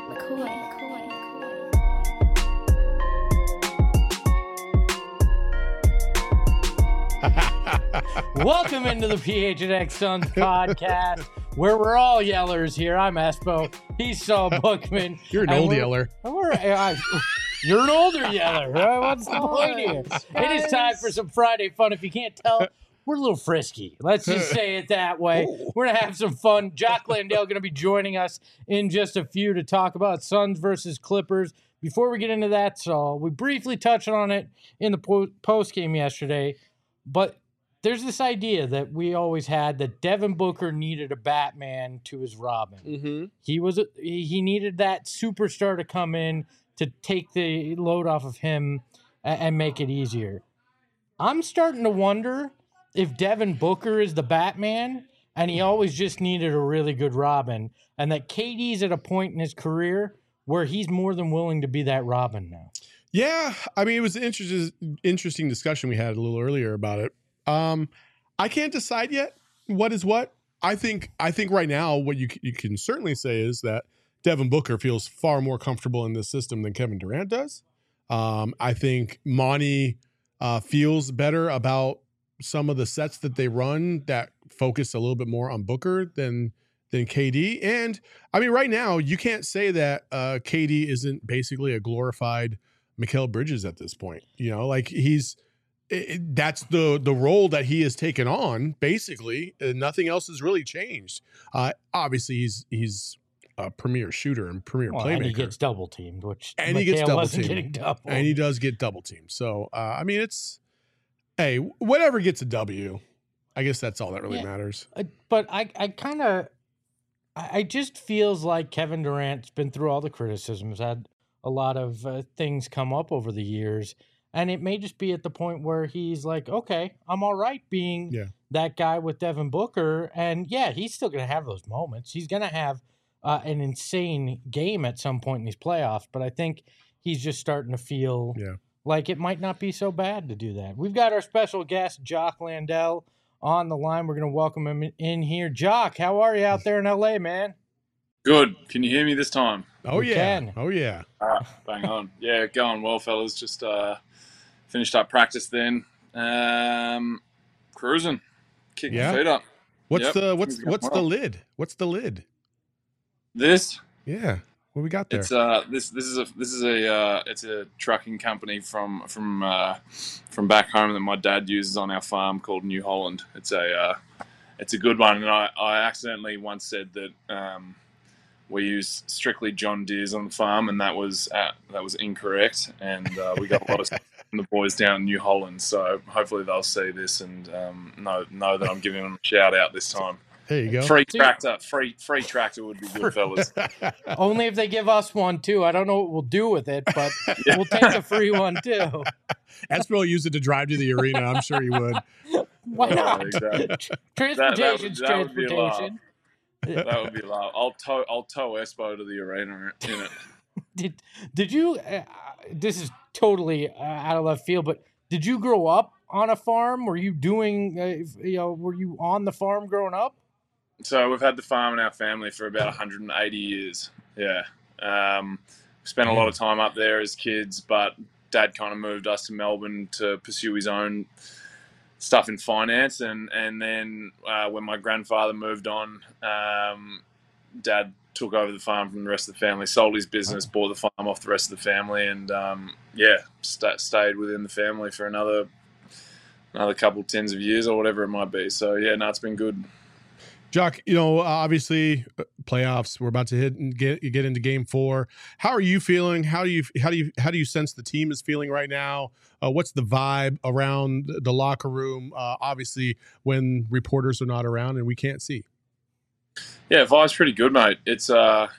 Welcome into the PHNX Suns podcast, where we're all yellers here. I'm Espo. He's Saul Bookman. You're an old yeller. You're an older yeller. Right? What's the point here? It is time for some Friday fun. If you can't tell, we're a little frisky. Let's just say it that way. We're going to have some fun. Jock Landale going to be joining us in just a few to talk about Suns versus Clippers. Before we get into that, Saul, we briefly touched on it in the post game yesterday, but there's this idea that we always had that Devin Booker needed a Batman to his Robin. Mm-hmm. He needed that superstar to come in to take the load off of him and make it easier. I'm starting to wonder if Devin Booker is the Batman and he always just needed a really good Robin, and that KD's at a point in his career where he's more than willing to be that Robin now. Yeah, I mean, it was an interesting discussion we had a little earlier about it. I can't decide yet what is what. I think right now what you can certainly say is that Devin Booker feels far more comfortable in this system than Kevin Durant does. I think Monty feels better about some of the sets that they run that focus a little bit more on Booker than KD. And I mean, right now you can't say that KD isn't basically a glorified Mikal Bridges at this point. You know, like that's the role that he has taken on, basically. Nothing else has really changed. Obviously, he's a premier shooter and premier playmaker. And he gets double teamed, and he does get double teamed. So, I mean, hey, whatever gets a W, I guess that's all that really matters. But I just feels like Kevin Durant's been through all the criticisms, had a lot of things come up over the years. And it may just be at the point where he's like, okay, I'm all right being that guy with Devin Booker. And, he's still going to have those moments. He's going to have an insane game at some point in these playoffs. But I think he's just starting to feel like it might not be so bad to do that. We've got our special guest, Jock Landale, on the line. We're going to welcome him in here. Jock, how are you out there in L.A., man? Good. Can you hear me this time? Oh, yeah. Can. Oh, yeah. Bang on. Yeah, going well, fellas. Just finished up practice then. Cruising. Kicking the feet up. What's the lid? What's the lid? This? Yeah. What we got there? It's it's a trucking company from back home that my dad uses on our farm called New Holland. It's a good one, and I accidentally once said that we use strictly John Deere's on the farm, and that was incorrect. And we got a lot of stuff from the boys down in New Holland, so hopefully they'll see this and know that I'm giving them a shout out this time. There you go. Free tractor would be good, fellas. Only if they give us one too. I don't know what we'll do with it, but we'll take a free one too. Espo will use it to drive to the arena. I'm sure he would. Why not? Exactly. Transportation's that transportation. That would be loud. I'll tow Espo to the arena in it. Did you? This is totally out of left field, but did you grow up on a farm? Were you doing? Were you on the farm growing up? So we've had the farm in our family for about 180 years. Yeah, spent a lot of time up there as kids, but Dad kind of moved us to Melbourne to pursue his own stuff in finance, and then when my grandfather moved on, Dad took over the farm from the rest of the family, sold his business, bought the farm off the rest of the family, and stayed within the family for another couple tens of years or whatever it might be. So it's been good. Jock, obviously playoffs. We're about to get into Game 4. How are you feeling? How do you sense the team is feeling right now? What's the vibe around the locker room? Obviously, when reporters are not around and we can't see. Yeah, vibe's pretty good, mate. It's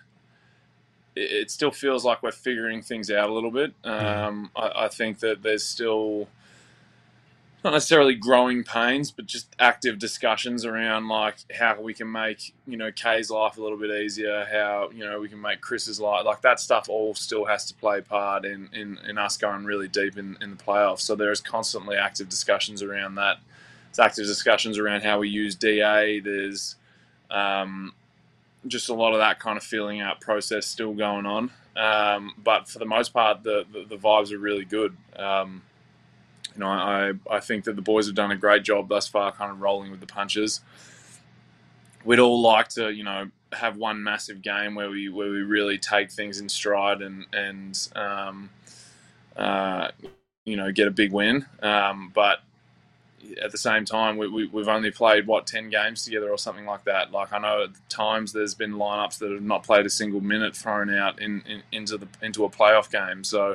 it still feels like we're figuring things out a little bit. I think that there's still not necessarily growing pains, but just active discussions around like how we can make, Kay's life a little bit easier, how, we can make Chris's life, like that stuff all still has to play part in us going really deep in the playoffs. So there's constantly active discussions around that. There's active discussions around how we use DA. There's just a lot of that kind of feeling out process still going on. But for the most part, the vibes are really good. I think that the boys have done a great job thus far, kind of rolling with the punches. We'd all like to, have one massive game where we really take things in stride and get a big win. But at the same time, we've only played 10 games together or something like that. Like, I know at times there's been lineups that have not played a single minute thrown out into a playoff game. So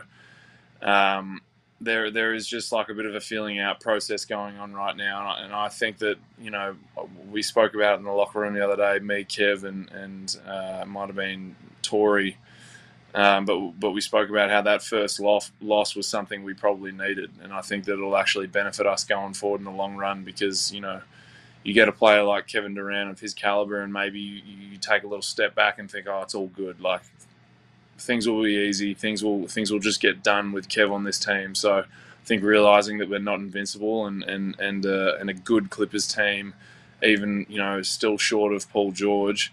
there is just like a bit of a feeling out process going on right now, and I think that we spoke about it in the locker room the other day, me, Kev, and might have been Tory. But we spoke about how that first loss was something we probably needed, and I think that it'll actually benefit us going forward in the long run, because you get a player like Kevin Durant of his caliber, and maybe you take a little step back and think, oh, it's all good. Like, things will be easy. Things will just get done with Kev on this team. So I think realizing that we're not invincible and a good Clippers team, even still short of Paul George,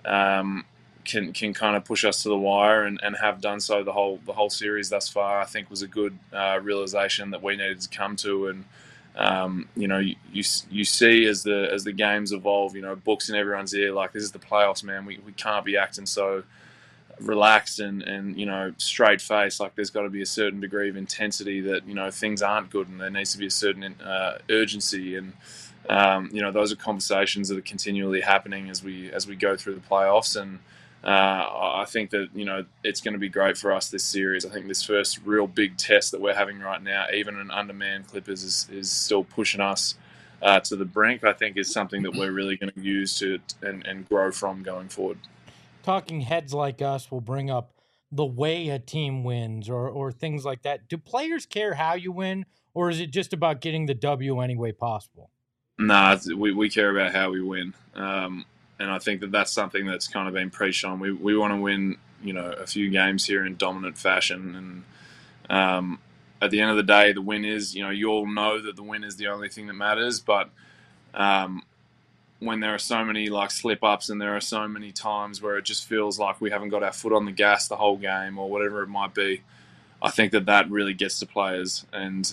can kind of push us to the wire and have done so the whole series thus far. I think was a good realization that we needed to come to. And you see as the games evolve, books in everyone's ear, like, this is the playoffs, man. We can't be acting so relaxed and straight face. Like, there's got to be a certain degree of intensity that things aren't good, and there needs to be a certain urgency. And those are conversations that are continually happening as we go through the playoffs. And I think that it's going to be great for us this series. I think this first real big test that we're having right now, even an undermanned Clippers, is still pushing us to the brink. I think is something that we're really going to use and grow from going forward. Talking heads like us will bring up the way a team wins or things like that. Do players care how you win, or is it just about getting the W any way possible? Nah, we care about how we win. And I think that that's something that's kind of been preached on. We want to win, a few games here in dominant fashion. And at the end of the day, the win is, you all know that the win is the only thing that matters. But when there are so many slip-ups and there are so many times where it just feels like we haven't got our foot on the gas the whole game or whatever it might be, I think that really gets to players. And,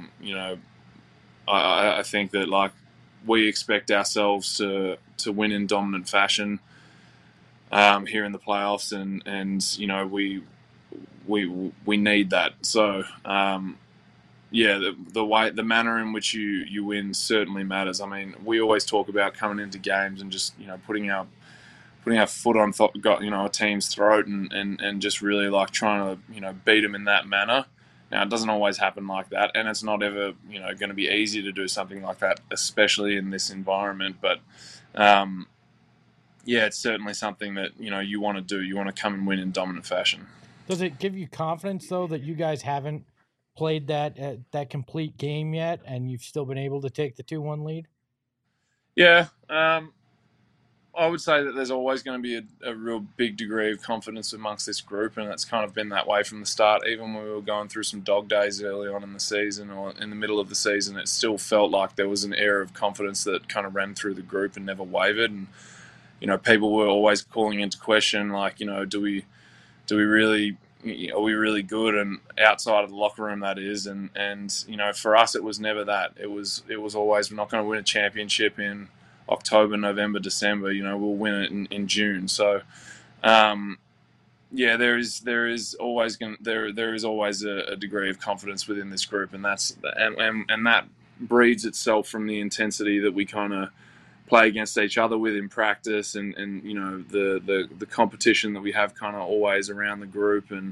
I think that, we expect ourselves to win in dominant fashion here in the playoffs, and we need that. So, the manner in which you win certainly matters. I mean, we always talk about coming into games and just putting our foot on a team's throat and just really trying to beat them in that manner. Now, it doesn't always happen like that, and it's not ever going to be easy to do something like that, especially in this environment. But it's certainly something that you want to do. You want to come and win in dominant fashion. Does it give you confidence though that you guys haven't played that complete game yet, and you've still been able to take the 2-1 lead? Yeah, I would say that there's always going to be a real big degree of confidence amongst this group, and it's kind of been that way from the start. Even when we were going through some dog days early on in the season or in the middle of the season, it still felt like there was an air of confidence that kind of ran through the group and never wavered. And people were always calling into question, do we really, are we really good? And outside of the locker room, that is. And for us, it was never that. It was always, we're not going to win a championship in October, November, December. We'll win it in June. So, there is always a degree of confidence within this group, and that breeds itself from the intensity that we kind of play against each other with in practice, and the competition that we have kind of always around the group. And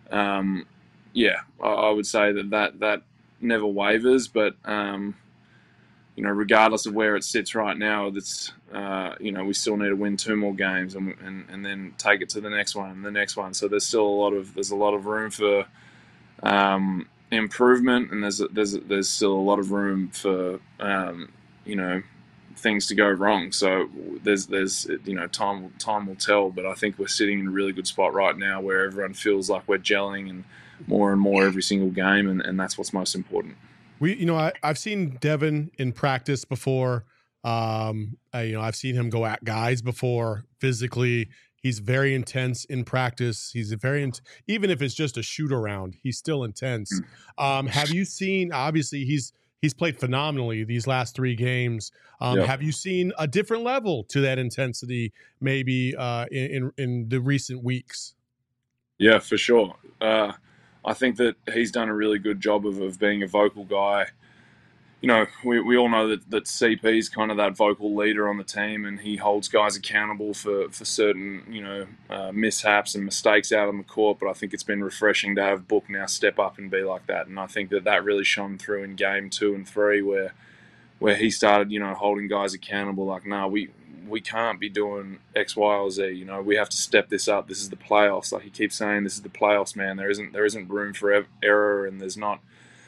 I would say that never wavers, but regardless of where it sits right now, that's we still need to win 2 more games and then take it to the next one and the next one. So there's a lot of room for improvement, and there's still a lot of room for things to go wrong. So there's time will tell, but I think we're sitting in a really good spot right now where everyone feels like we're gelling and more every single game, and that's what's most important. I've seen Devin in practice before. I've seen him go at guys before physically. He's very intense in practice. He's even if it's just a shoot around, he's still intense. Have you seen? Obviously, he's played phenomenally these last 3 games. Have you seen a different level to that intensity, maybe in the recent weeks? Yeah, for sure. I think that he's done a really good job of being a vocal guy. You know, we all know that CP is kind of that vocal leader on the team, and he holds guys accountable for certain, mishaps and mistakes out on the court. But I think it's been refreshing to have Book now step up and be like that. And I think that really shone through in game 2 and 3 where he started, holding guys accountable. Like, we can't be doing X, Y, or Z. We have to step this up. This is the playoffs. Like he keeps saying, this is the playoffs, man. There isn't room for error, and there's not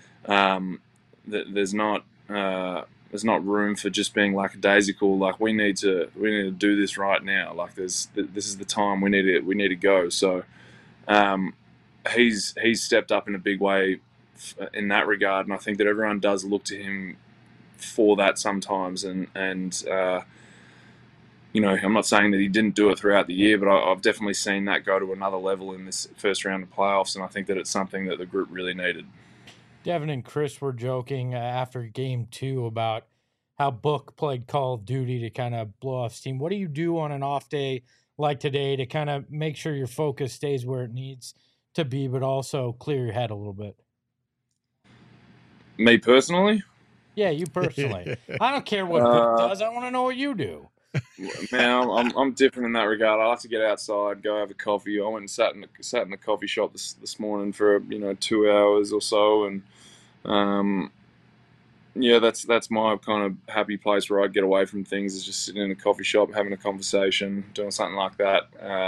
room for just being lackadaisical. Like we need to do this right now. Like this is the time we need to go. So he's stepped up in a big way in that regard, and I think that everyone does look to him for that sometimes. And I'm not saying that he didn't do it throughout the year, but I've definitely seen that go to another level in this first round of playoffs, and I think that it's something that the group really needed. Devin and Chris were joking after game 2 about how Book played Call of Duty to kind of blow off steam. What do you do on an off day like today to kind of make sure your focus stays where it needs to be, but also clear your head a little bit? Me personally? Yeah, you personally. I don't care what Book does. I want to know what you do. Man, I'm different in that regard. I like to get outside, go have a coffee. I went and sat in the coffee shop this morning for 2 hours or so, and that's my kind of happy place where I get away from things, is just sitting in a coffee shop, having a conversation, doing something like that.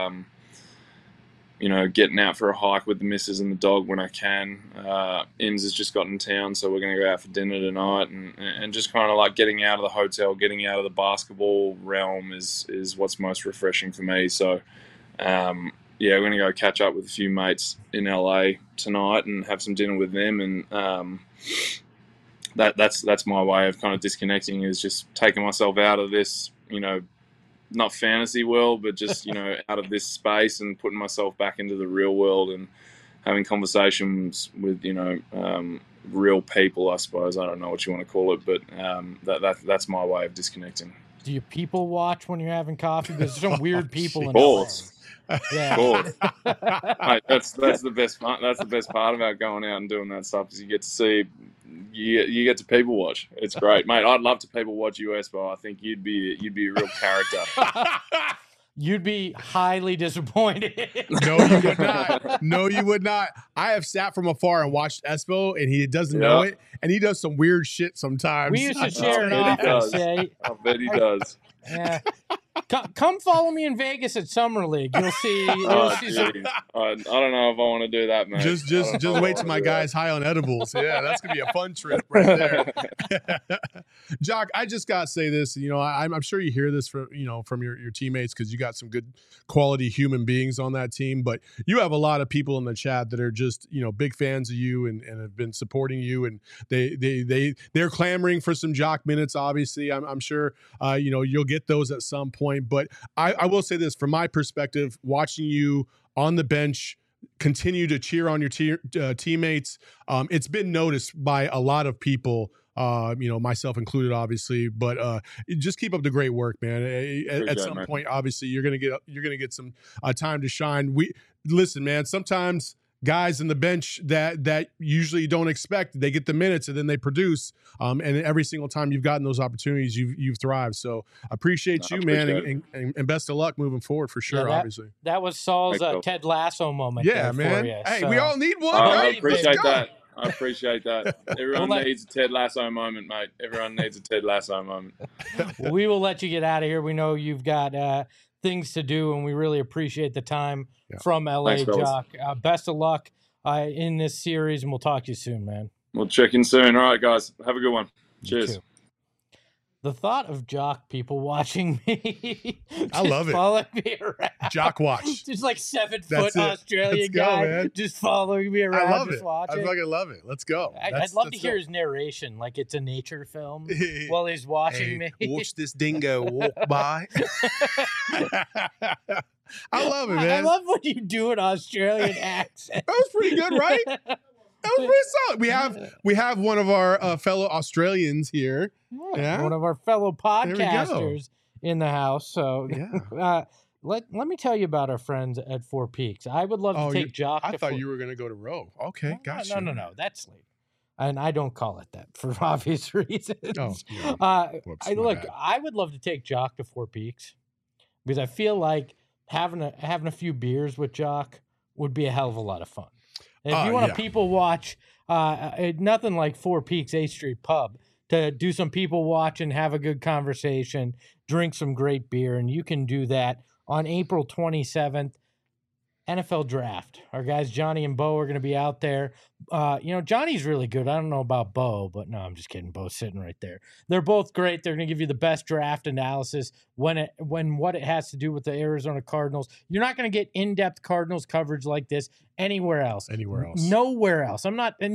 Getting out for a hike with the missus and the dog when I can. Ims has just got in town, so we're going to go out for dinner tonight, and just kind of like getting out of the hotel, getting out of the basketball realm is what's most refreshing for me. So, we're going to go catch up with a few mates in LA tonight and have some dinner with them, and that's my way of kind of disconnecting, is just taking myself out of this, not fantasy world, but just, out of this space and putting myself back into the real world and having conversations with, real people, I suppose. I don't know what you want to call it, but that's my way of disconnecting. Do you people watch when you're having coffee? There's some weird people in LA. Yeah. Mate, that's the best part. That's the best part about going out and doing that stuff, is you get to see, you get to people watch. It's great, mate. I'd love to people watch US, but I think you'd be a real character. You'd be highly disappointed. No, you would not. No, you would not. I have sat from afar and watched Espo, and he doesn't know it, and he does some weird shit sometimes. We used to share an office. I bet he does. Yeah. Come follow me in Vegas at Summer League. You'll see. I don't know if I want to do that, man. Just wait till my guy's high on edibles. Yeah, that's gonna be a fun trip right there. Jock, I just gotta say this. I'm sure you hear this from your teammates, because you got some good quality human beings on that team. But you have a lot of people in the chat that are just big fans of you and have been supporting you, and they're clamoring for some Jock minutes. Obviously, I'm sure you'll get those at some point. But I will say this, from my perspective, watching you on the bench continue to cheer on your teammates, it's been noticed by a lot of people, myself included, obviously. But just keep up the great work, man. At some point, obviously, you're gonna get some time to shine. Listen, man. Sometimes guys in the bench that usually you don't expect, they get the minutes and then they produce. And every single time you've gotten those opportunities, you've thrived. So appreciate you, man, and best of luck moving forward for sure. Obviously, that was Saul's Ted Lasso moment. Yeah, man. Hey, we all need one. Right? I appreciate that. I appreciate that. Everyone needs a Ted Lasso moment, mate. Everyone needs a Ted Lasso moment. Well, we will let you get out of here. We know you've got things to do, and we really appreciate the time from LA. Thanks, Jock. Best of luck in this series, and we'll talk to you soon, man. We'll check in soon. All right, guys. Have a good one. Cheers. The thought of Jock people watching me, I love it. Following me around. Jock watch. Just like 7-foot That's it. Australian Let's go, guy man. just following me around. I love just it. watching. I fucking love it. Let's go. I'd love to hear his narration, like it's a nature film while he's watching me. Watch this dingo walk by. I love it, man. I love when you do an Australian accent. That was pretty good, right? That was pretty solid. We have one of our fellow Australians here. Yeah. One of our fellow There we go. podcasters in the house. So Yeah. let me tell you about our friends at Four Peaks. I would love to take Jock. I thought you were going to go to Roe. Okay, gotcha. No. That's late. And I don't call it that for obvious reasons. Oh, yeah. Whoops, my look, bad. I would love to take Jock to Four Peaks because I feel like having a few beers with Jock would be a hell of a lot of fun. And if you want to people watch, nothing like Four Peaks 8th Street Pub to do some people watch and have a good conversation, drink some great beer, and you can do that on April 27th. NFL Draft. Our guys Johnny and Bo are going to be out there. Johnny's really good. I don't know about Bo, but no, I'm just kidding. Bo's sitting right there. They're both great. They're going to give you the best draft analysis when what it has to do with the Arizona Cardinals. You're not going to get in-depth Cardinals coverage like this anywhere else. Nowhere else.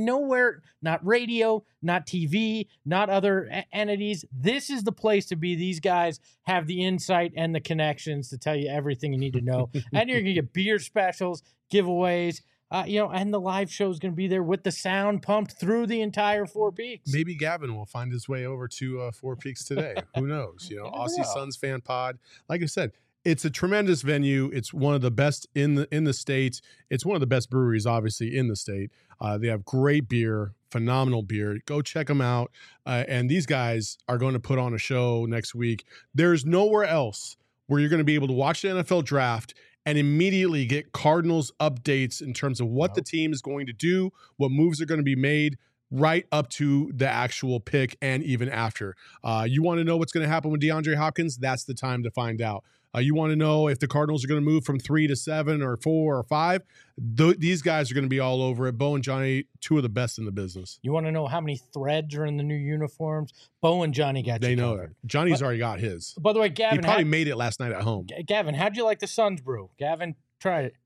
Not radio, not TV, not other entities. This is the place to be. These guys have the insight and the connections to tell you everything you need to know. And you're going to get beer specials, giveaways, and the live show is going to be there with the sound pumped through the entire Four Peaks. Maybe Gavin will find his way over to Four Peaks today. Who knows? Aussie Suns fan pod. Like I said, it's a tremendous venue. It's one of the best in the state. It's one of the best breweries, obviously, in the state. They have great beer, phenomenal beer. Go check them out. And these guys are going to put on a show next week. There's nowhere else where you're going to be able to watch the NFL draft and immediately get Cardinals updates in terms of what the team is going to do, what moves are going to be made, right up to the actual pick and even after. You want to know what's going to happen with DeAndre Hopkins? That's the time to find out. You want to know if the Cardinals are going to move from 3 to 7 or 4 or 5? These guys are going to be all over it. Bo and Johnny, two of the best in the business. You want to know how many threads are in the new uniforms? Bo and Johnny got you. They know that. Johnny's already got his. By the way, Gavin, he probably made it last night at home. Gavin, how'd you like the Suns brew? Gavin tried it.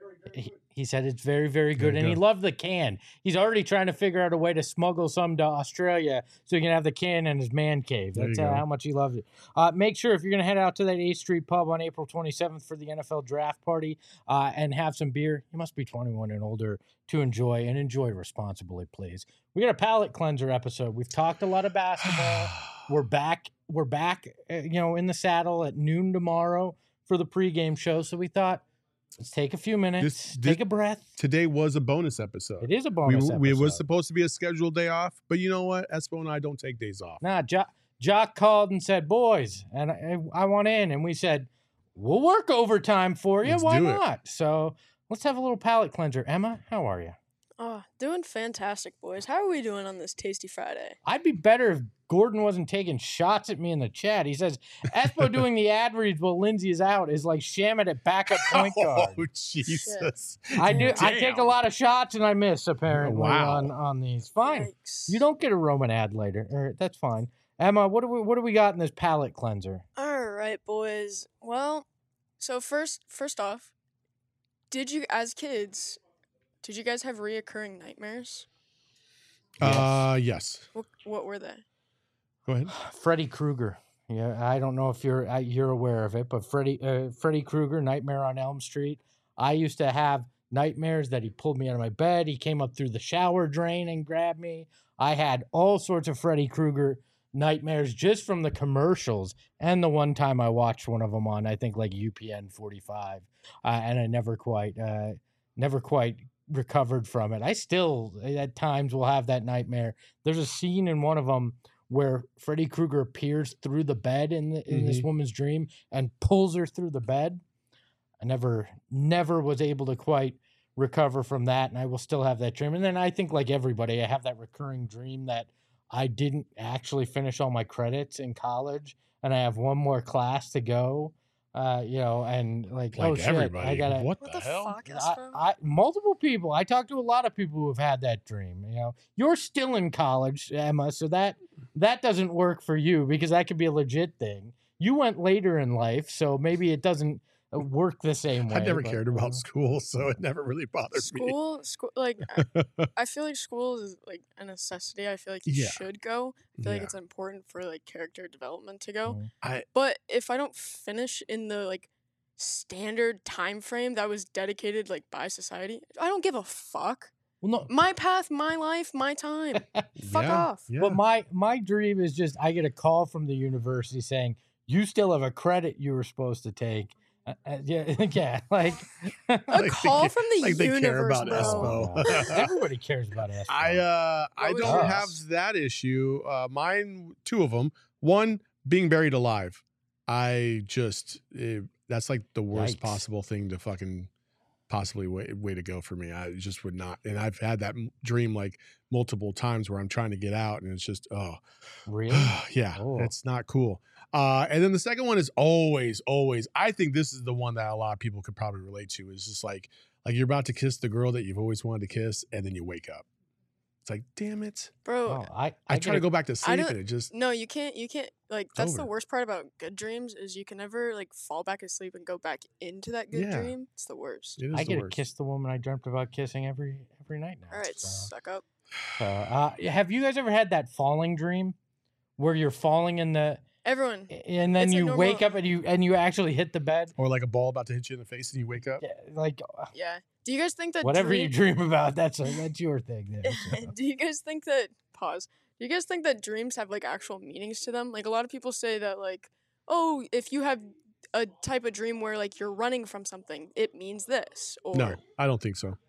He said it's very, very good, and he loved the can. He's already trying to figure out a way to smuggle some to Australia so he can have the can in his man cave. That's how much he loved it. Make sure if you're going to head out to that 8th Street Pub on April 27th for the NFL Draft Party and have some beer, you must be 21 and older to enjoy, and enjoy responsibly, please. We got a palate cleanser episode. We've talked a lot of basketball. We're back, in the saddle at noon tomorrow for the pregame show, so we thought, let's take a few minutes, take a breath. Today was a bonus episode. It is a bonus episode. It was supposed to be a scheduled day off, but you know what? Espo and I don't take days off. Nah, Jock called and said, boys, and I want in. And we said, we'll work overtime for you. Why not? So let's have a little palate cleanser. Emma, how are you? Doing fantastic, boys. How are we doing on this Tasty Friday? I'd be better if Gordon wasn't taking shots at me in the chat. He says, Espo doing the ad reads while Lindsay is out is like Shamet at backup point guard. Oh, Jesus. I do. Damn. I take a lot of shots and I miss, apparently, on these. Fine. Yikes. You don't get a Roman ad later. That's fine. Emma, what do we got in this palate cleanser? All right, boys. Well, so first off, did you guys have reoccurring nightmares? Yes. What were they? Go ahead. Freddy Krueger. Yeah, I don't know if you're aware of it, but Freddy Krueger, Nightmare on Elm Street. I used to have nightmares that he pulled me out of my bed. He came up through the shower drain and grabbed me. I had all sorts of Freddy Krueger nightmares just from the commercials, and the one time I watched one of them on, I think, like UPN 45, and I never quite recovered from it. I still at times will have that nightmare. There's a scene in one of them where Freddy Krueger appears through the bed in this woman's dream and pulls her through the bed. I never was able to quite recover from that, and I will still have that dream. And then I think, like everybody, I have that recurring dream that I didn't actually finish all my credits in college, and I have one more class to go. You know, and like oh shit, everybody. I gotta. What What the the hell? fuck, Espo? Multiple people. I talked to a lot of people who have had that dream. You know, you're still in college, Emma, so that doesn't work for you because that could be a legit thing. You went later in life, so maybe it doesn't work the same way. I never cared about school, so it never really bothered me. School, like I feel like school is like a necessity. I feel like you Yeah. should go. I feel like Yeah. it's important for like character development to go. Mhm. But if I don't finish in the like standard time frame that was dedicated like by society, I don't give a fuck. Well, no, My path, my life, my time. Fuck Yeah, off. Yeah. but my dream is just I get a call from the university saying you still have a credit you were supposed to take. Yeah, like A Like call they, from the like they care universe, about bro. Espo. everybody cares about us. I What was don't yours? have that issue. Mine, two of them. One, being buried alive. I just that's like the worst Yikes. possible thing to fucking possibly way to go for me. I just would not. And I've had that dream like multiple times where I'm trying to get out, and it's just Really? yeah, Oh. it's not cool. And then the second one is always. I think this is the one that a lot of people could probably relate to. Is just like you're about to kiss the girl that you've always wanted to kiss, and then you wake up. It's like, damn it! Bro, Oh, I I get try to a- go back to sleep, don't- and it just no, you can't like that's the over. worst part about good dreams is you can never like fall back asleep and go back into that good Yeah. dream. It's the worst. it is I the get to worst. kiss the woman I dreamt about kissing every night now. All right, so. suck up. Have you guys ever had that falling dream where you're falling in the Everyone, and then It's a you wake normal- up and you actually hit the bed? Or like a ball about to hit you in the face, and you wake up. Yeah, like yeah. Do you guys think that whatever you dream about, that's your thing. There, so. Do you guys think that pause? Do you guys think that dreams have like actual meanings to them? Like a lot of people say that like, oh, if you have a type of dream where like you're running from something, it means this. Or No, I don't think so.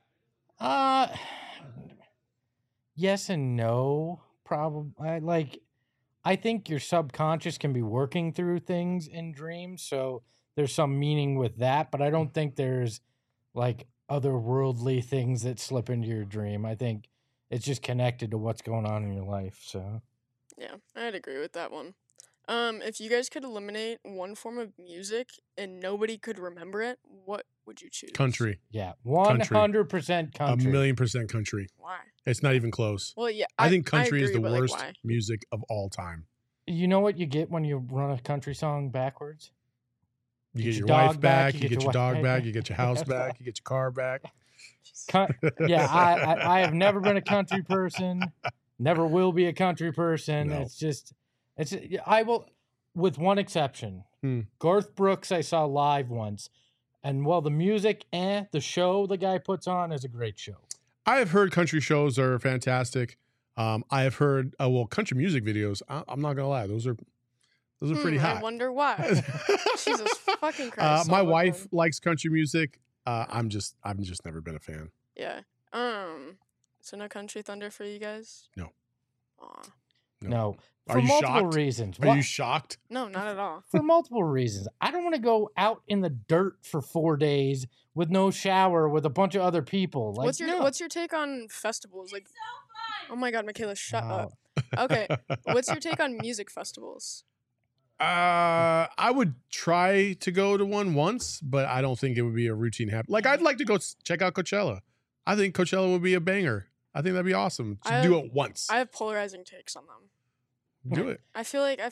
Yes and no. Probably. I think your subconscious can be working through things in dreams, so there's some meaning with that. But I don't think there's like otherworldly things that slip into your dream. I think it's just connected to what's going on in your life. So yeah, I'd agree with that one. If you guys could eliminate one form of music and nobody could remember it, what would you choose? Country, yeah, Country. 100% country. 1,000,000% country. Why? It's not even close. Well, yeah, I think country is agree, the but, like, worst why? music of all time. You know what you get when you run a country song backwards? You Get get your your wife dog back, back, you get your dog wife back, you get your house back, you get your car back. Yeah, I have never been a country person. Never will be a country person. No. I will, with one exception. Hmm. Garth Brooks I saw live once, and while the music, the show the guy puts on is a great show. I have heard country shows are fantastic. I have heard country music videos. I'm not gonna lie, those are pretty hot. I wonder why. Jesus fucking Christ. My I'll look wife one. likes country music. I've just never been a fan. Yeah. So no Country Thunder for you guys? No. Aw. No, Are for you multiple shocked? reasons. Are you shocked? No, not at all. For multiple reasons. I don't want to go out in the dirt for 4 days with no shower with a bunch of other people. Like, What's your take on festivals? Like, oh my God, Michaela, shut Wow. up. Okay, what's your take on music festivals? I would try to go to one once, but I don't think it would be a routine habit. Like, I'd like to go check out Coachella. I think Coachella would be a banger. I think that'd be awesome to do it once. I have polarizing takes on them. Do it. I feel like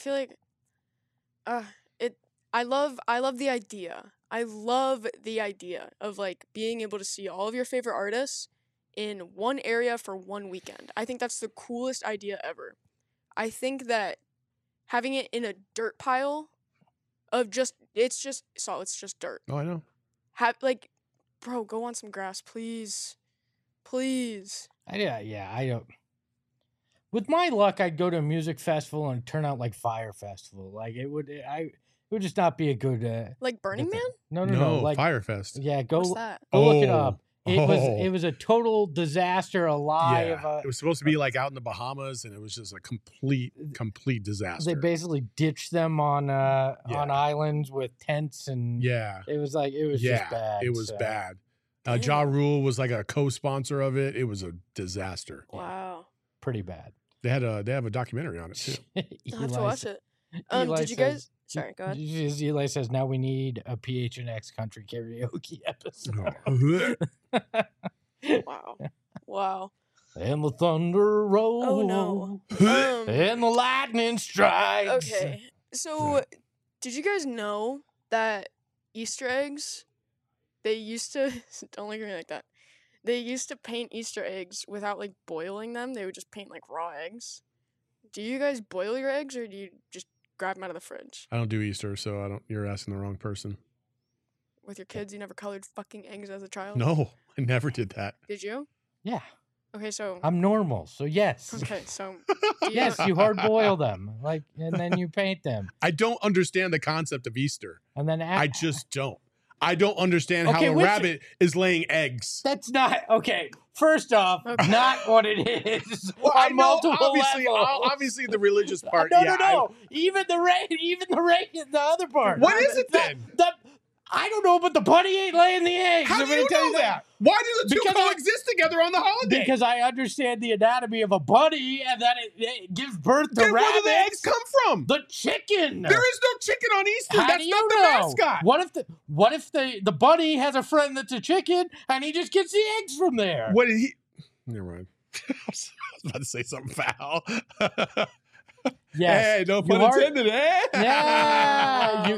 I love the idea. I love the idea of like being able to see all of your favorite artists in one area for one weekend. I think that's the coolest idea ever. I think that having it in a dirt pile of it's just dirt. Oh, I know. Bro, go on some grass, please. Please. Yeah, I don't. With my luck, I'd go to a music festival and turn out like Fire Festival. Like it would just not be a good. Like Burning good Man? thing. No. No, Like Firefest. yeah, go What's that? look it Oh. up. It was a total disaster. A lie of It was supposed to be like out in the Bahamas, and it was just a complete disaster. They basically ditched them on islands with tents and yeah, it was just bad. it was so. bad. Damn. Ja Rule was like a co-sponsor of it. It was a disaster. Wow. Pretty bad. They have a documentary on it too. I'll have to watch it. Eli Did you says- guys Sorry, go ahead. Eli says, now we need a PHNX country karaoke episode. Wow. And the thunder rolls. Oh, no. And the lightning strikes. Okay. So, did you guys know that Easter eggs, they used to, don't look at me like that. They used to paint Easter eggs without, like, boiling them. They would just paint, like, raw eggs. Do you guys boil your eggs, or do you just grab them out of the fridge? I don't do Easter, so you're asking the wrong person. With your kids, you never colored fucking eggs as a child? No, I never did that. Did you? Yeah. Okay, so... I'm normal, so yes. Okay, so... Yes, you hard boil them, and then you paint them. I don't understand the concept of Easter. And then I just don't. I don't understand how a rabbit is laying eggs. That's not okay. First off, not what it is. Well, on multiple levels. Obviously, the religious part. No. Even the other part. What is it then? I don't know, but the bunny ain't laying the eggs. How do you know that? Why do the two coexist together on the holiday? Because I understand the anatomy of a bunny and that it gives birth to rabbits. Where do the eggs come from? The chicken. There is no chicken on Easter. How That's not the mascot. What if the bunny has a friend that's a chicken and he just gets the eggs from there? What did he? Never mind. I was about to say something foul. Yes. Hey, no pun intended. Yeah.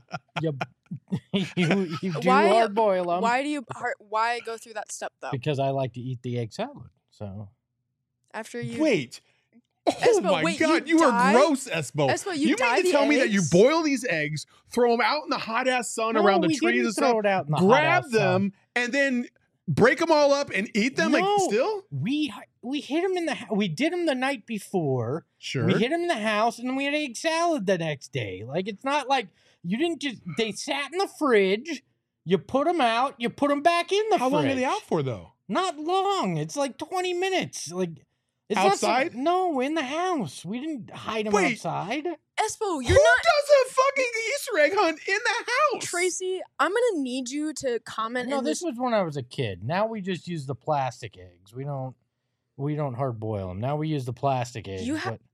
You do hard boil them. Why go through that step though? Because I like to eat the egg salad. So after you wait. Oh Espo, my God, you are gross, Espo. Espo, you mean to tell me that you boil these eggs, throw them out in the hot ass sun around the trees and stuff, grab them, and then break them all up and eat them? Still? We hit them we did them the night before. Sure. We hit them in the house, and then we had egg salad the next day. It's not like you didn't just. They sat in the fridge. You put them out. You put them back in the fridge. How long are they out for though? Not long. It's like 20 minutes. It's outside? No, in the house. We didn't hide them outside. Espo, Who does a fucking Easter egg hunt in the house? Tracy, I'm gonna need you to comment. No, this was when I was a kid. Now we just use the plastic eggs. We don't hard boil them. Now we use the plastic eggs.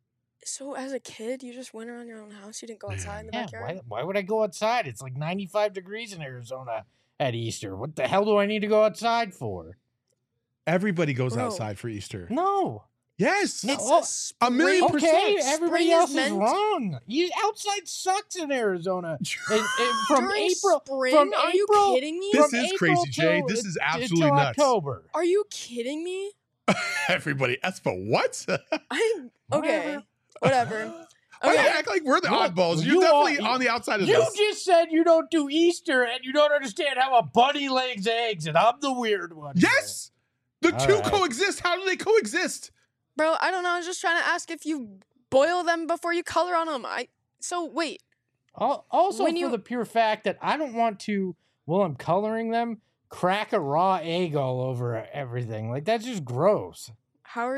So as a kid, you just went around your own house. You didn't go outside in the backyard. Why would I go outside? It's like 95 degrees in Arizona at Easter. What the hell do I need to go outside for? Everybody goes outside for Easter. No. Yes. It's a million %. Okay, everybody else is wrong. Outside sucks in Arizona. From April. Are you kidding me? This is crazy, Jay. This is absolutely nuts. October. Are you kidding me? Everybody, Espo, what? Okay, whatever. Why do you act like we're the oddballs? You're definitely on the outside of this. You just said you don't do Easter and you don't understand how a bunny lays eggs, and I'm the weird one. Yes! The two coexist. How do they coexist? Bro, I don't know. I was just trying to ask if you boil them before you color on them. So, wait. Also, for the pure fact that I don't want to, while I'm coloring them, crack a raw egg all over everything. That's just gross. How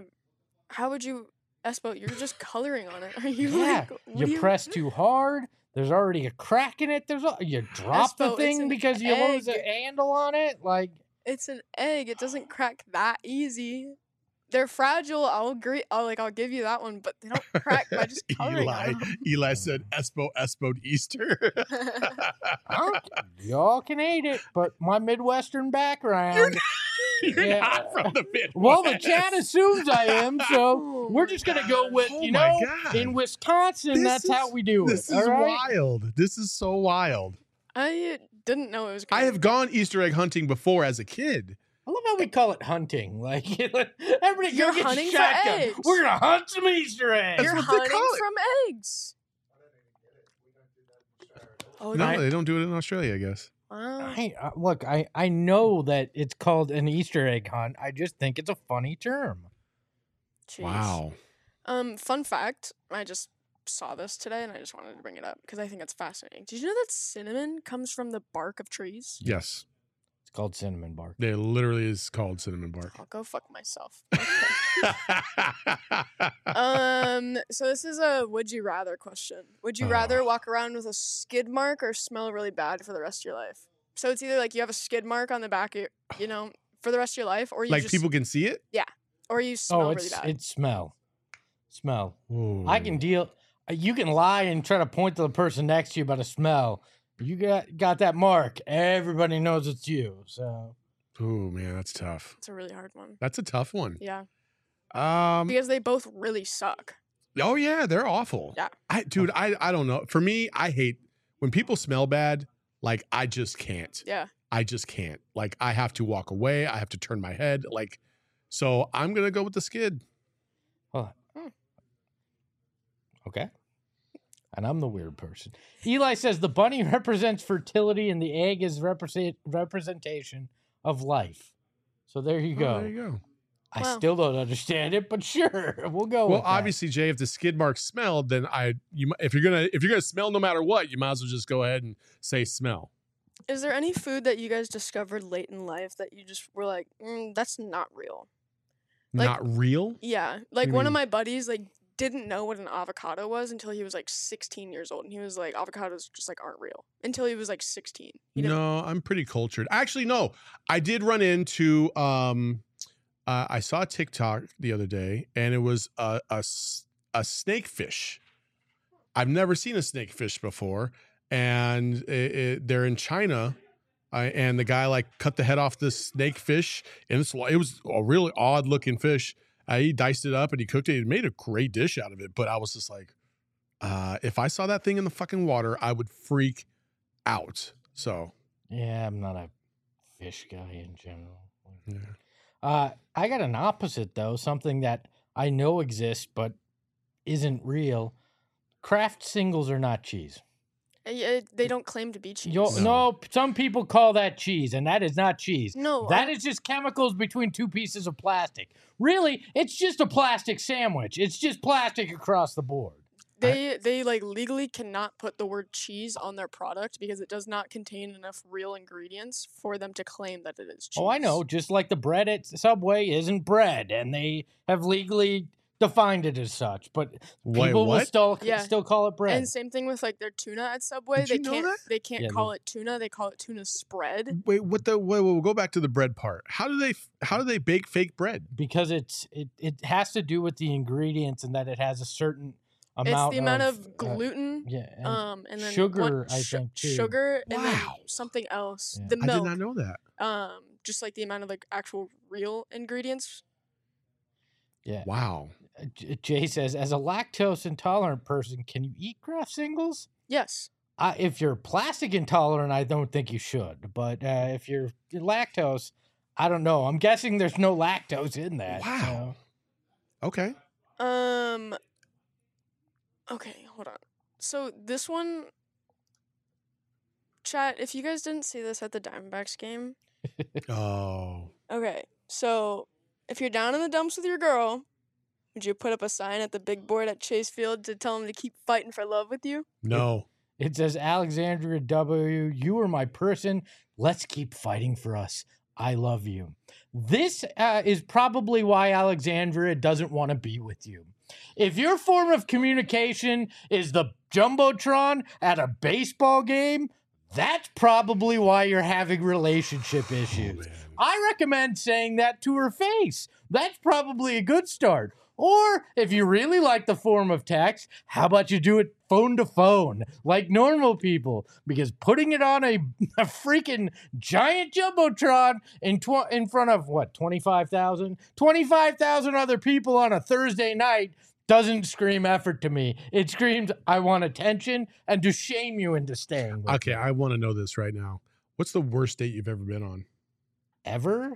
would you, Espo, you're just coloring on it. Are you you press too hard. There's already a crack in it. You drop the thing because you lose a handle on it. It's an egg. It doesn't crack that easy. They're fragile. I'll agree. I'll give you that one, but they don't crack by just coloring on them. Eli said, Espo'd Easter. Y'all can eat it, but my Midwestern background. You're not from the Midwest. Well, the chat assumes I am, so we're just going to go with, in Wisconsin, that's how we do it. This is wild. This is so wild. I didn't know it was I have gone Easter egg hunting before as a kid. I love how we call it hunting. Everybody You're go get hunting your for shotgun. eggs. We're going to hunt some Easter eggs. You're hunting from eggs. Oh, no, they don't do it in Australia, I guess. Look, I know that it's called an Easter egg hunt. I just think it's a funny term. Jeez. Wow. Fun fact, I just saw this today and I just wanted to bring it up because I think it's fascinating. Did you know that cinnamon comes from the bark of trees? Yes. It's called cinnamon bark. It literally is called cinnamon bark. I'll go fuck myself. So this is a would you rather question. Would you rather walk around with a skid mark or smell really bad for the rest of your life? So it's either you have a skid mark on the back of your, for the rest of your life, or you people can see it? Yeah. Or you smell really bad. It's smell. Ooh. I can deal You can lie and try to point to the person next to you about a smell. You got that mark. Everybody knows it's you. So. Oh man, that's tough. It's a really hard one. That's a tough one. Yeah. Because they both really suck. Oh yeah, they're awful. Yeah. I don't know. For me, I hate when people smell bad. Like I just can't. Yeah. I just can't. Like I have to walk away. I have to turn my head. Like, so I'm gonna go with the skid. Okay. And I'm the weird person. Eli says the bunny represents fertility and the egg is representation of life. So there you go. There you go. I still don't understand it, but sure, we'll go. Well, with obviously, Jay, if the skid mark smelled, then if you're gonna smell no matter what, you might as well just go ahead and say smell. Is there any food that you guys discovered late in life that you just were like, that's not real? Like, not real? Yeah. Like one of my buddies didn't know what an avocado was until he was 16 years old. And he was like, avocados just aren't real until he was 16. No, I'm pretty cultured. Actually, no, I did run into, I saw a TikTok the other day and it was a snakefish. I've never seen a snakefish before. And they're in China. And the guy cut the head off this snakefish. And it was a really odd looking fish. He diced it up and he cooked it. He made a great dish out of it. But I was just like, if I saw that thing in the fucking water, I would freak out. So. Yeah, I'm not a fish guy in general. Yeah. I got an opposite, though. Something that I know exists but isn't real. Kraft singles are not cheese. They don't claim to be cheese. No, some people call that cheese, and that is not cheese. No. That is just chemicals between two pieces of plastic. Really, it's just a plastic sandwich. It's just plastic across the board. They legally cannot put the word cheese on their product because it does not contain enough real ingredients for them to claim that it is cheese. Oh, I know. Just like the bread at Subway isn't bread, and they have legally defined it as such, but people will still call it bread. And same thing with their tuna at Subway. They can't call it tuna. They call it tuna spread. Wait, we'll go back to the bread part. How do they bake fake bread? Because it has to do with the ingredients and that it has a certain amount. It's the amount of gluten. And then sugar. I think too. Sugar and then something else. Yeah. The milk. I did not know that. Just the amount of actual real ingredients. Yeah. Wow. Jay says, as a lactose intolerant person, can you eat Kraft singles? Yes. If you're plastic intolerant, I don't think you should. But if you're lactose, I don't know. I'm guessing there's no lactose in that. Wow. So. Okay. Okay, hold on. So this one, chat, if you guys didn't see this at the Diamondbacks game. Oh. Okay, so if you're down in the dumps with your girl, would you put up a sign at the big board at Chase Field to tell them to keep fighting for love with you? No. It says, Alexandria W., you are my person. Let's keep fighting for us. I love you. This is probably why Alexandria doesn't want to be with you. If your form of communication is the Jumbotron at a baseball game, that's probably why you're having relationship issues. I recommend saying that to her face. That's probably a good start. Or if you really like the form of text, how about you do it phone to phone like normal people? Because putting it on a freaking giant Jumbotron in front of, 25,000? 25,000 other people on a Thursday night doesn't scream effort to me. It screams, I want attention and to shame you into staying with Okay, me. I want to know this right now. What's the worst date you've ever been on? Ever?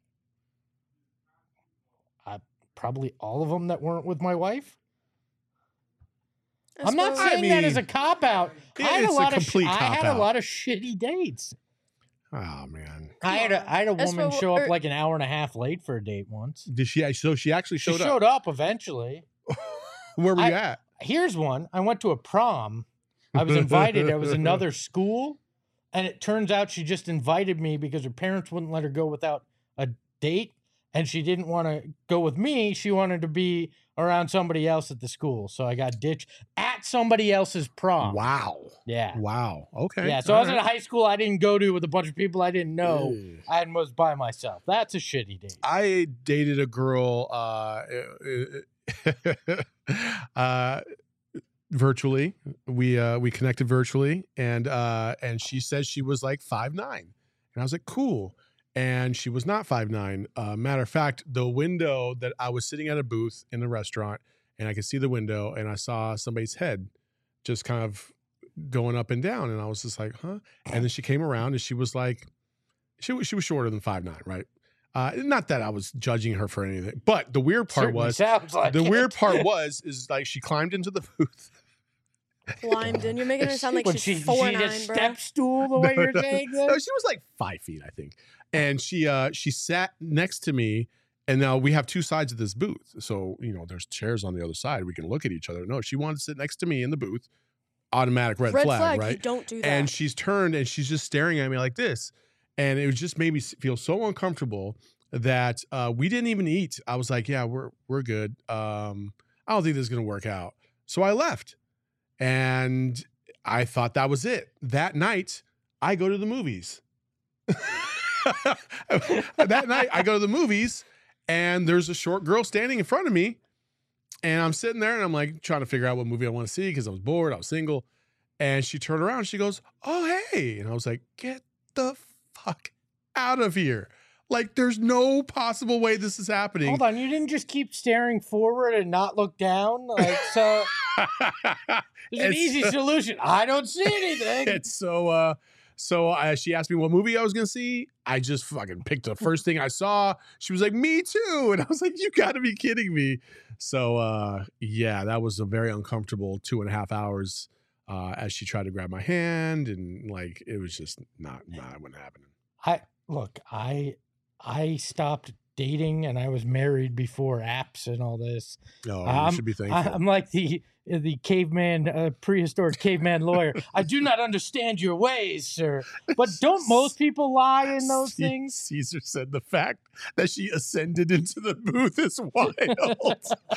Probably all of them that weren't with my wife. I'm not saying that as a cop-out. I had a lot of shitty dates. Oh, man. I had a woman show up an hour and a half late for a date once. Did she? So she actually showed up? She showed up eventually. Where were you at? Here's one. I went to a prom. I was invited. It was another school. And it turns out she just invited me because her parents wouldn't let her go without a date. And she didn't want to go with me. She wanted to be around somebody else at the school. So I got ditched at somebody else's prom. Wow. Yeah. Wow. Okay. Yeah. So I was at a high school I didn't go to with a bunch of people I didn't know. I was by myself. That's a shitty date. I dated a girl virtually. We connected virtually, and she said she was like 5'9", and I was like, cool. And she was not 5'9". Matter of fact, the window that I was sitting at a booth in the restaurant, and I could see the window, and I saw somebody's head just kind of going up and down, and I was just like, huh? And then she came around, and she was like, she was shorter than 5'9", right? Not that I was judging her for anything, but the weird part was is like she climbed into the booth. Climbed in. You're making her sound like she's 4'9", bro. Step stool the way you're saying this? No, she was like 5 feet, I think. And she sat next to me, and now we have two sides of this booth. So, there's chairs on the other side. We can look at each other. No, she wanted to sit next to me in the booth. Automatic red flag, right? You don't do that. And she's turned, and she's just staring at me like this. And it just made me feel so uncomfortable that we didn't even eat. I was like, yeah, we're good. I don't think this is going to work out. So I left. And I thought that was it. That night, I go to the movies. That night, I go to the movies, and there's a short girl standing in front of me. And I'm sitting there, and I'm like trying to figure out what movie I want to see because I was bored. I was single. And she turned around, and she goes, oh, hey. And I was like, get the fuck out of here. Like, there's no possible way this is happening. Hold on, you didn't just keep staring forward and not look down? Like, so there's an easy solution. I don't see anything. It's so she asked me what movie I was going to see. I just fucking picked the first thing I saw. She was like, me too. And I was like, you got to be kidding me. So, yeah, that was a very uncomfortable 2.5 hours as she tried to grab my hand. And, like, it was just not what happened. I stopped dating and I was married before apps and all this. Oh, you should be thankful. I'm like the caveman, prehistoric caveman lawyer. I do not understand your ways, sir. But don't most people lie in those things? Caesar said the fact that she ascended into the booth is wild.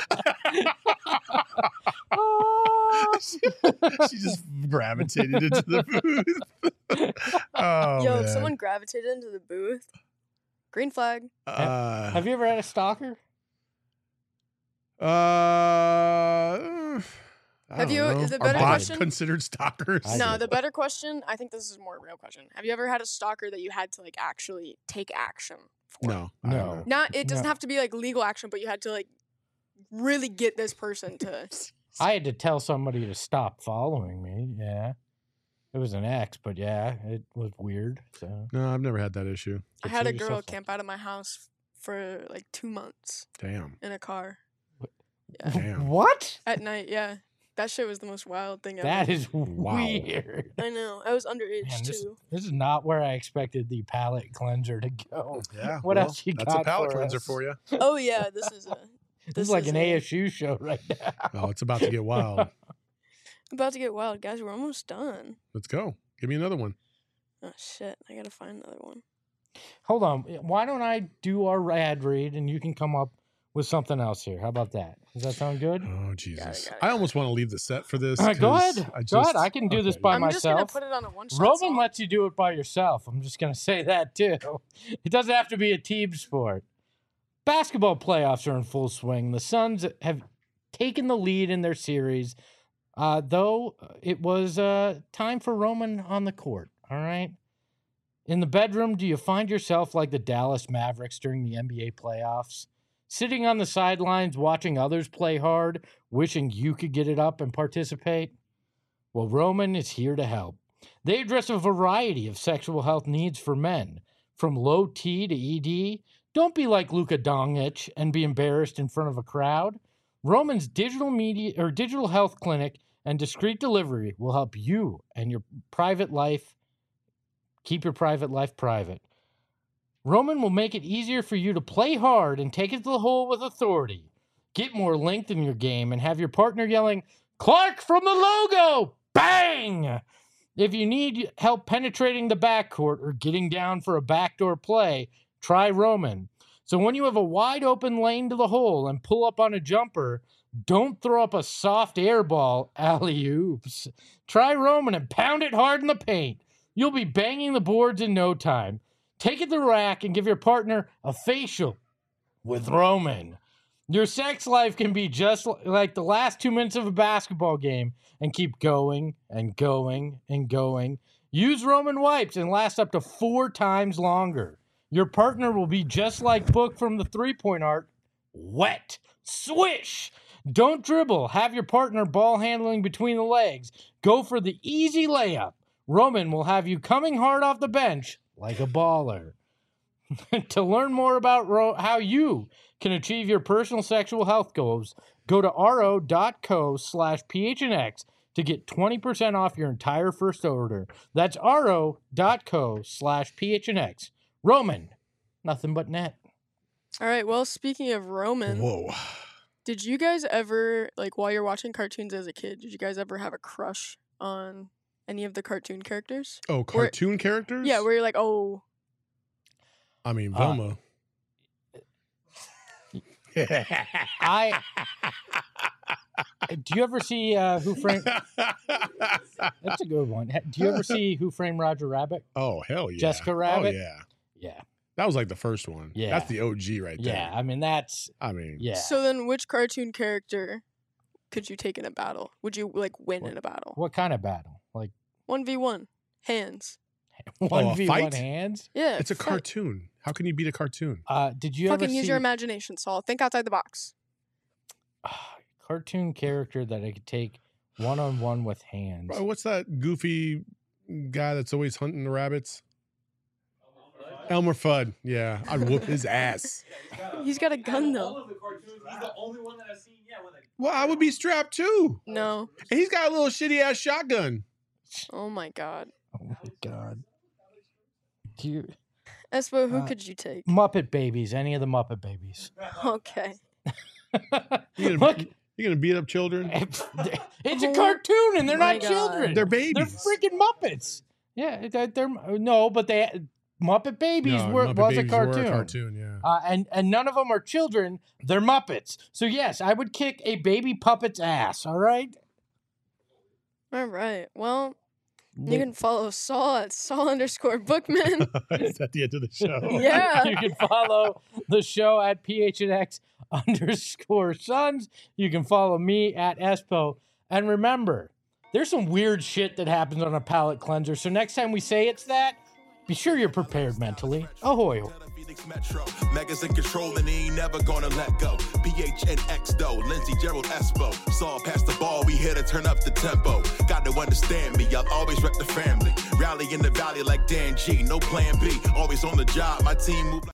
She just gravitated into the booth. Oh, yo, man. If someone gravitated into the booth, green flag. Have you ever had a stalker? Have you? Know. The better question considered stalkers? No, the better question. I think this is a more real question. Have you ever had a stalker that you had to like actually take action for? No. Not. It doesn't have to be like legal action, but you had to like really get this person to. I had to tell somebody to stop following me. Yeah. It was an ex, but yeah, it was weird. So no, I've never had that issue. I had a girl camp out of my house for like 2 months. Damn. In a car. Yeah. Damn. What? At night, yeah. That shit was the most wild thing ever. That is weird. I know. I was underage Man, too. This is not where I expected the palate cleanser to go. Yeah. What else you got? That's a palate cleanser for you. Oh yeah, this is like an ASU show right now. Oh, it's about to get wild. About to get wild, guys. We're almost done. Let's go. Give me another one. Oh shit! I gotta find another one. Hold on. Why don't I do our ad read and you can come up with something else here? How about that? Does that sound good? Oh Jesus! I almost want to leave the set for this. Go ahead. Go ahead. I can do this by myself. I'm just gonna put it on a one-shot. Roman lets you do it by yourself. I'm just gonna say that too. It doesn't have to be a team sport. Basketball playoffs are in full swing. The Suns have taken the lead in their series. Though it was time for Roman on the court, all right? In the bedroom, do you find yourself like the Dallas Mavericks during the NBA playoffs? Sitting on the sidelines, watching others play hard, wishing you could get it up and participate? Well, Roman is here to help. They address a variety of sexual health needs for men, from low T to ED. Don't be like Luka Doncic and be embarrassed in front of a crowd. Roman's digital health clinic and discreet delivery will help you and your private life keep your private life private. Roman will make it easier for you to play hard and take it to the hole with authority. Get more length in your game and have your partner yelling, "Clark from the logo!" Bang! If you need help penetrating the backcourt or getting down for a backdoor play, try Roman. So when you have a wide open lane to the hole and pull up on a jumper, don't throw up a soft air ball, alley-oops. Try Roman and pound it hard in the paint. You'll be banging the boards in no time. Take it to the rack and give your partner a facial with Roman. Your sex life can be just like the last 2 minutes of a basketball game and keep going and going and going. Use Roman wipes and last up to 4 times longer. Your partner will be just like Book from the 3-point arc. Wet. Swish. Don't dribble. Have your partner ball handling between the legs. Go for the easy layup. Roman will have you coming hard off the bench like a baller. To learn more about how you can achieve your personal sexual health goals, go to ro.co/phnx to get 20% off your entire first order. That's ro.co/phnx. Roman, nothing but net. All right, well, speaking of Roman, Whoa. Did you guys ever, like, while you're watching cartoons as a kid, did you guys ever have a crush on any of the cartoon characters? Oh, cartoon characters? Yeah, where you're like, oh. I mean, Velma. Do you ever see Who Framed... That's a good one. Do you ever see Who Framed Roger Rabbit? Oh, hell yeah. Jessica Rabbit? Oh, yeah. Yeah. That was like the first one. Yeah. That's the OG right there. Yeah, I mean, that's... Yeah. So then which cartoon character could you take in a battle? Would you, like, win in a battle? What kind of battle? Like 1v1. Hands. 1v1 fight? hands? Yeah. It's a cartoon. How can you beat a cartoon? Did you ever Fucking see... use your imagination, Saul. Think outside the box. Cartoon character that I could take one-on-one with hands. Bro, what's that goofy guy that's always hunting the rabbits? Elmer Fudd. Yeah, I'd whoop his ass. He's got a gun, though. All of the cartoons, he's the only one that I've seen, with a... Well, I would be strapped too. No. And he's got a little shitty ass shotgun. Oh, my God. Oh, my God. Do you... Espo, who could you take? Muppet Babies. Any of the Muppet Babies. Okay. Look, You're going to beat up children? it's a cartoon and they're My not God. children. They're babies. They're freaking Muppets. Yeah, they're no, but Muppet Babies was a cartoon. Yeah. And none of them are children. They're Muppets. So yes, I would kick a baby puppet's ass. All right. All right. Well, you can follow Saul at Saul_Bookman. Is that the end of the show? Yeah. You can follow the show at PHNX_Sons. You can follow me at Espo. And remember, there's some weird shit that happens on a palate cleanser. So next time we say it's that, be sure you're prepared mentally. Ahoy. Metro. Megas in control and he ain't never gonna let go. PHNX though, Lindsey, Gerald, Espo. Saw past the ball, we here to turn up the tempo. Got to understand me, I'll always rep the family. Rally in the valley like Dan G, no plan B. Always on the job, my team move like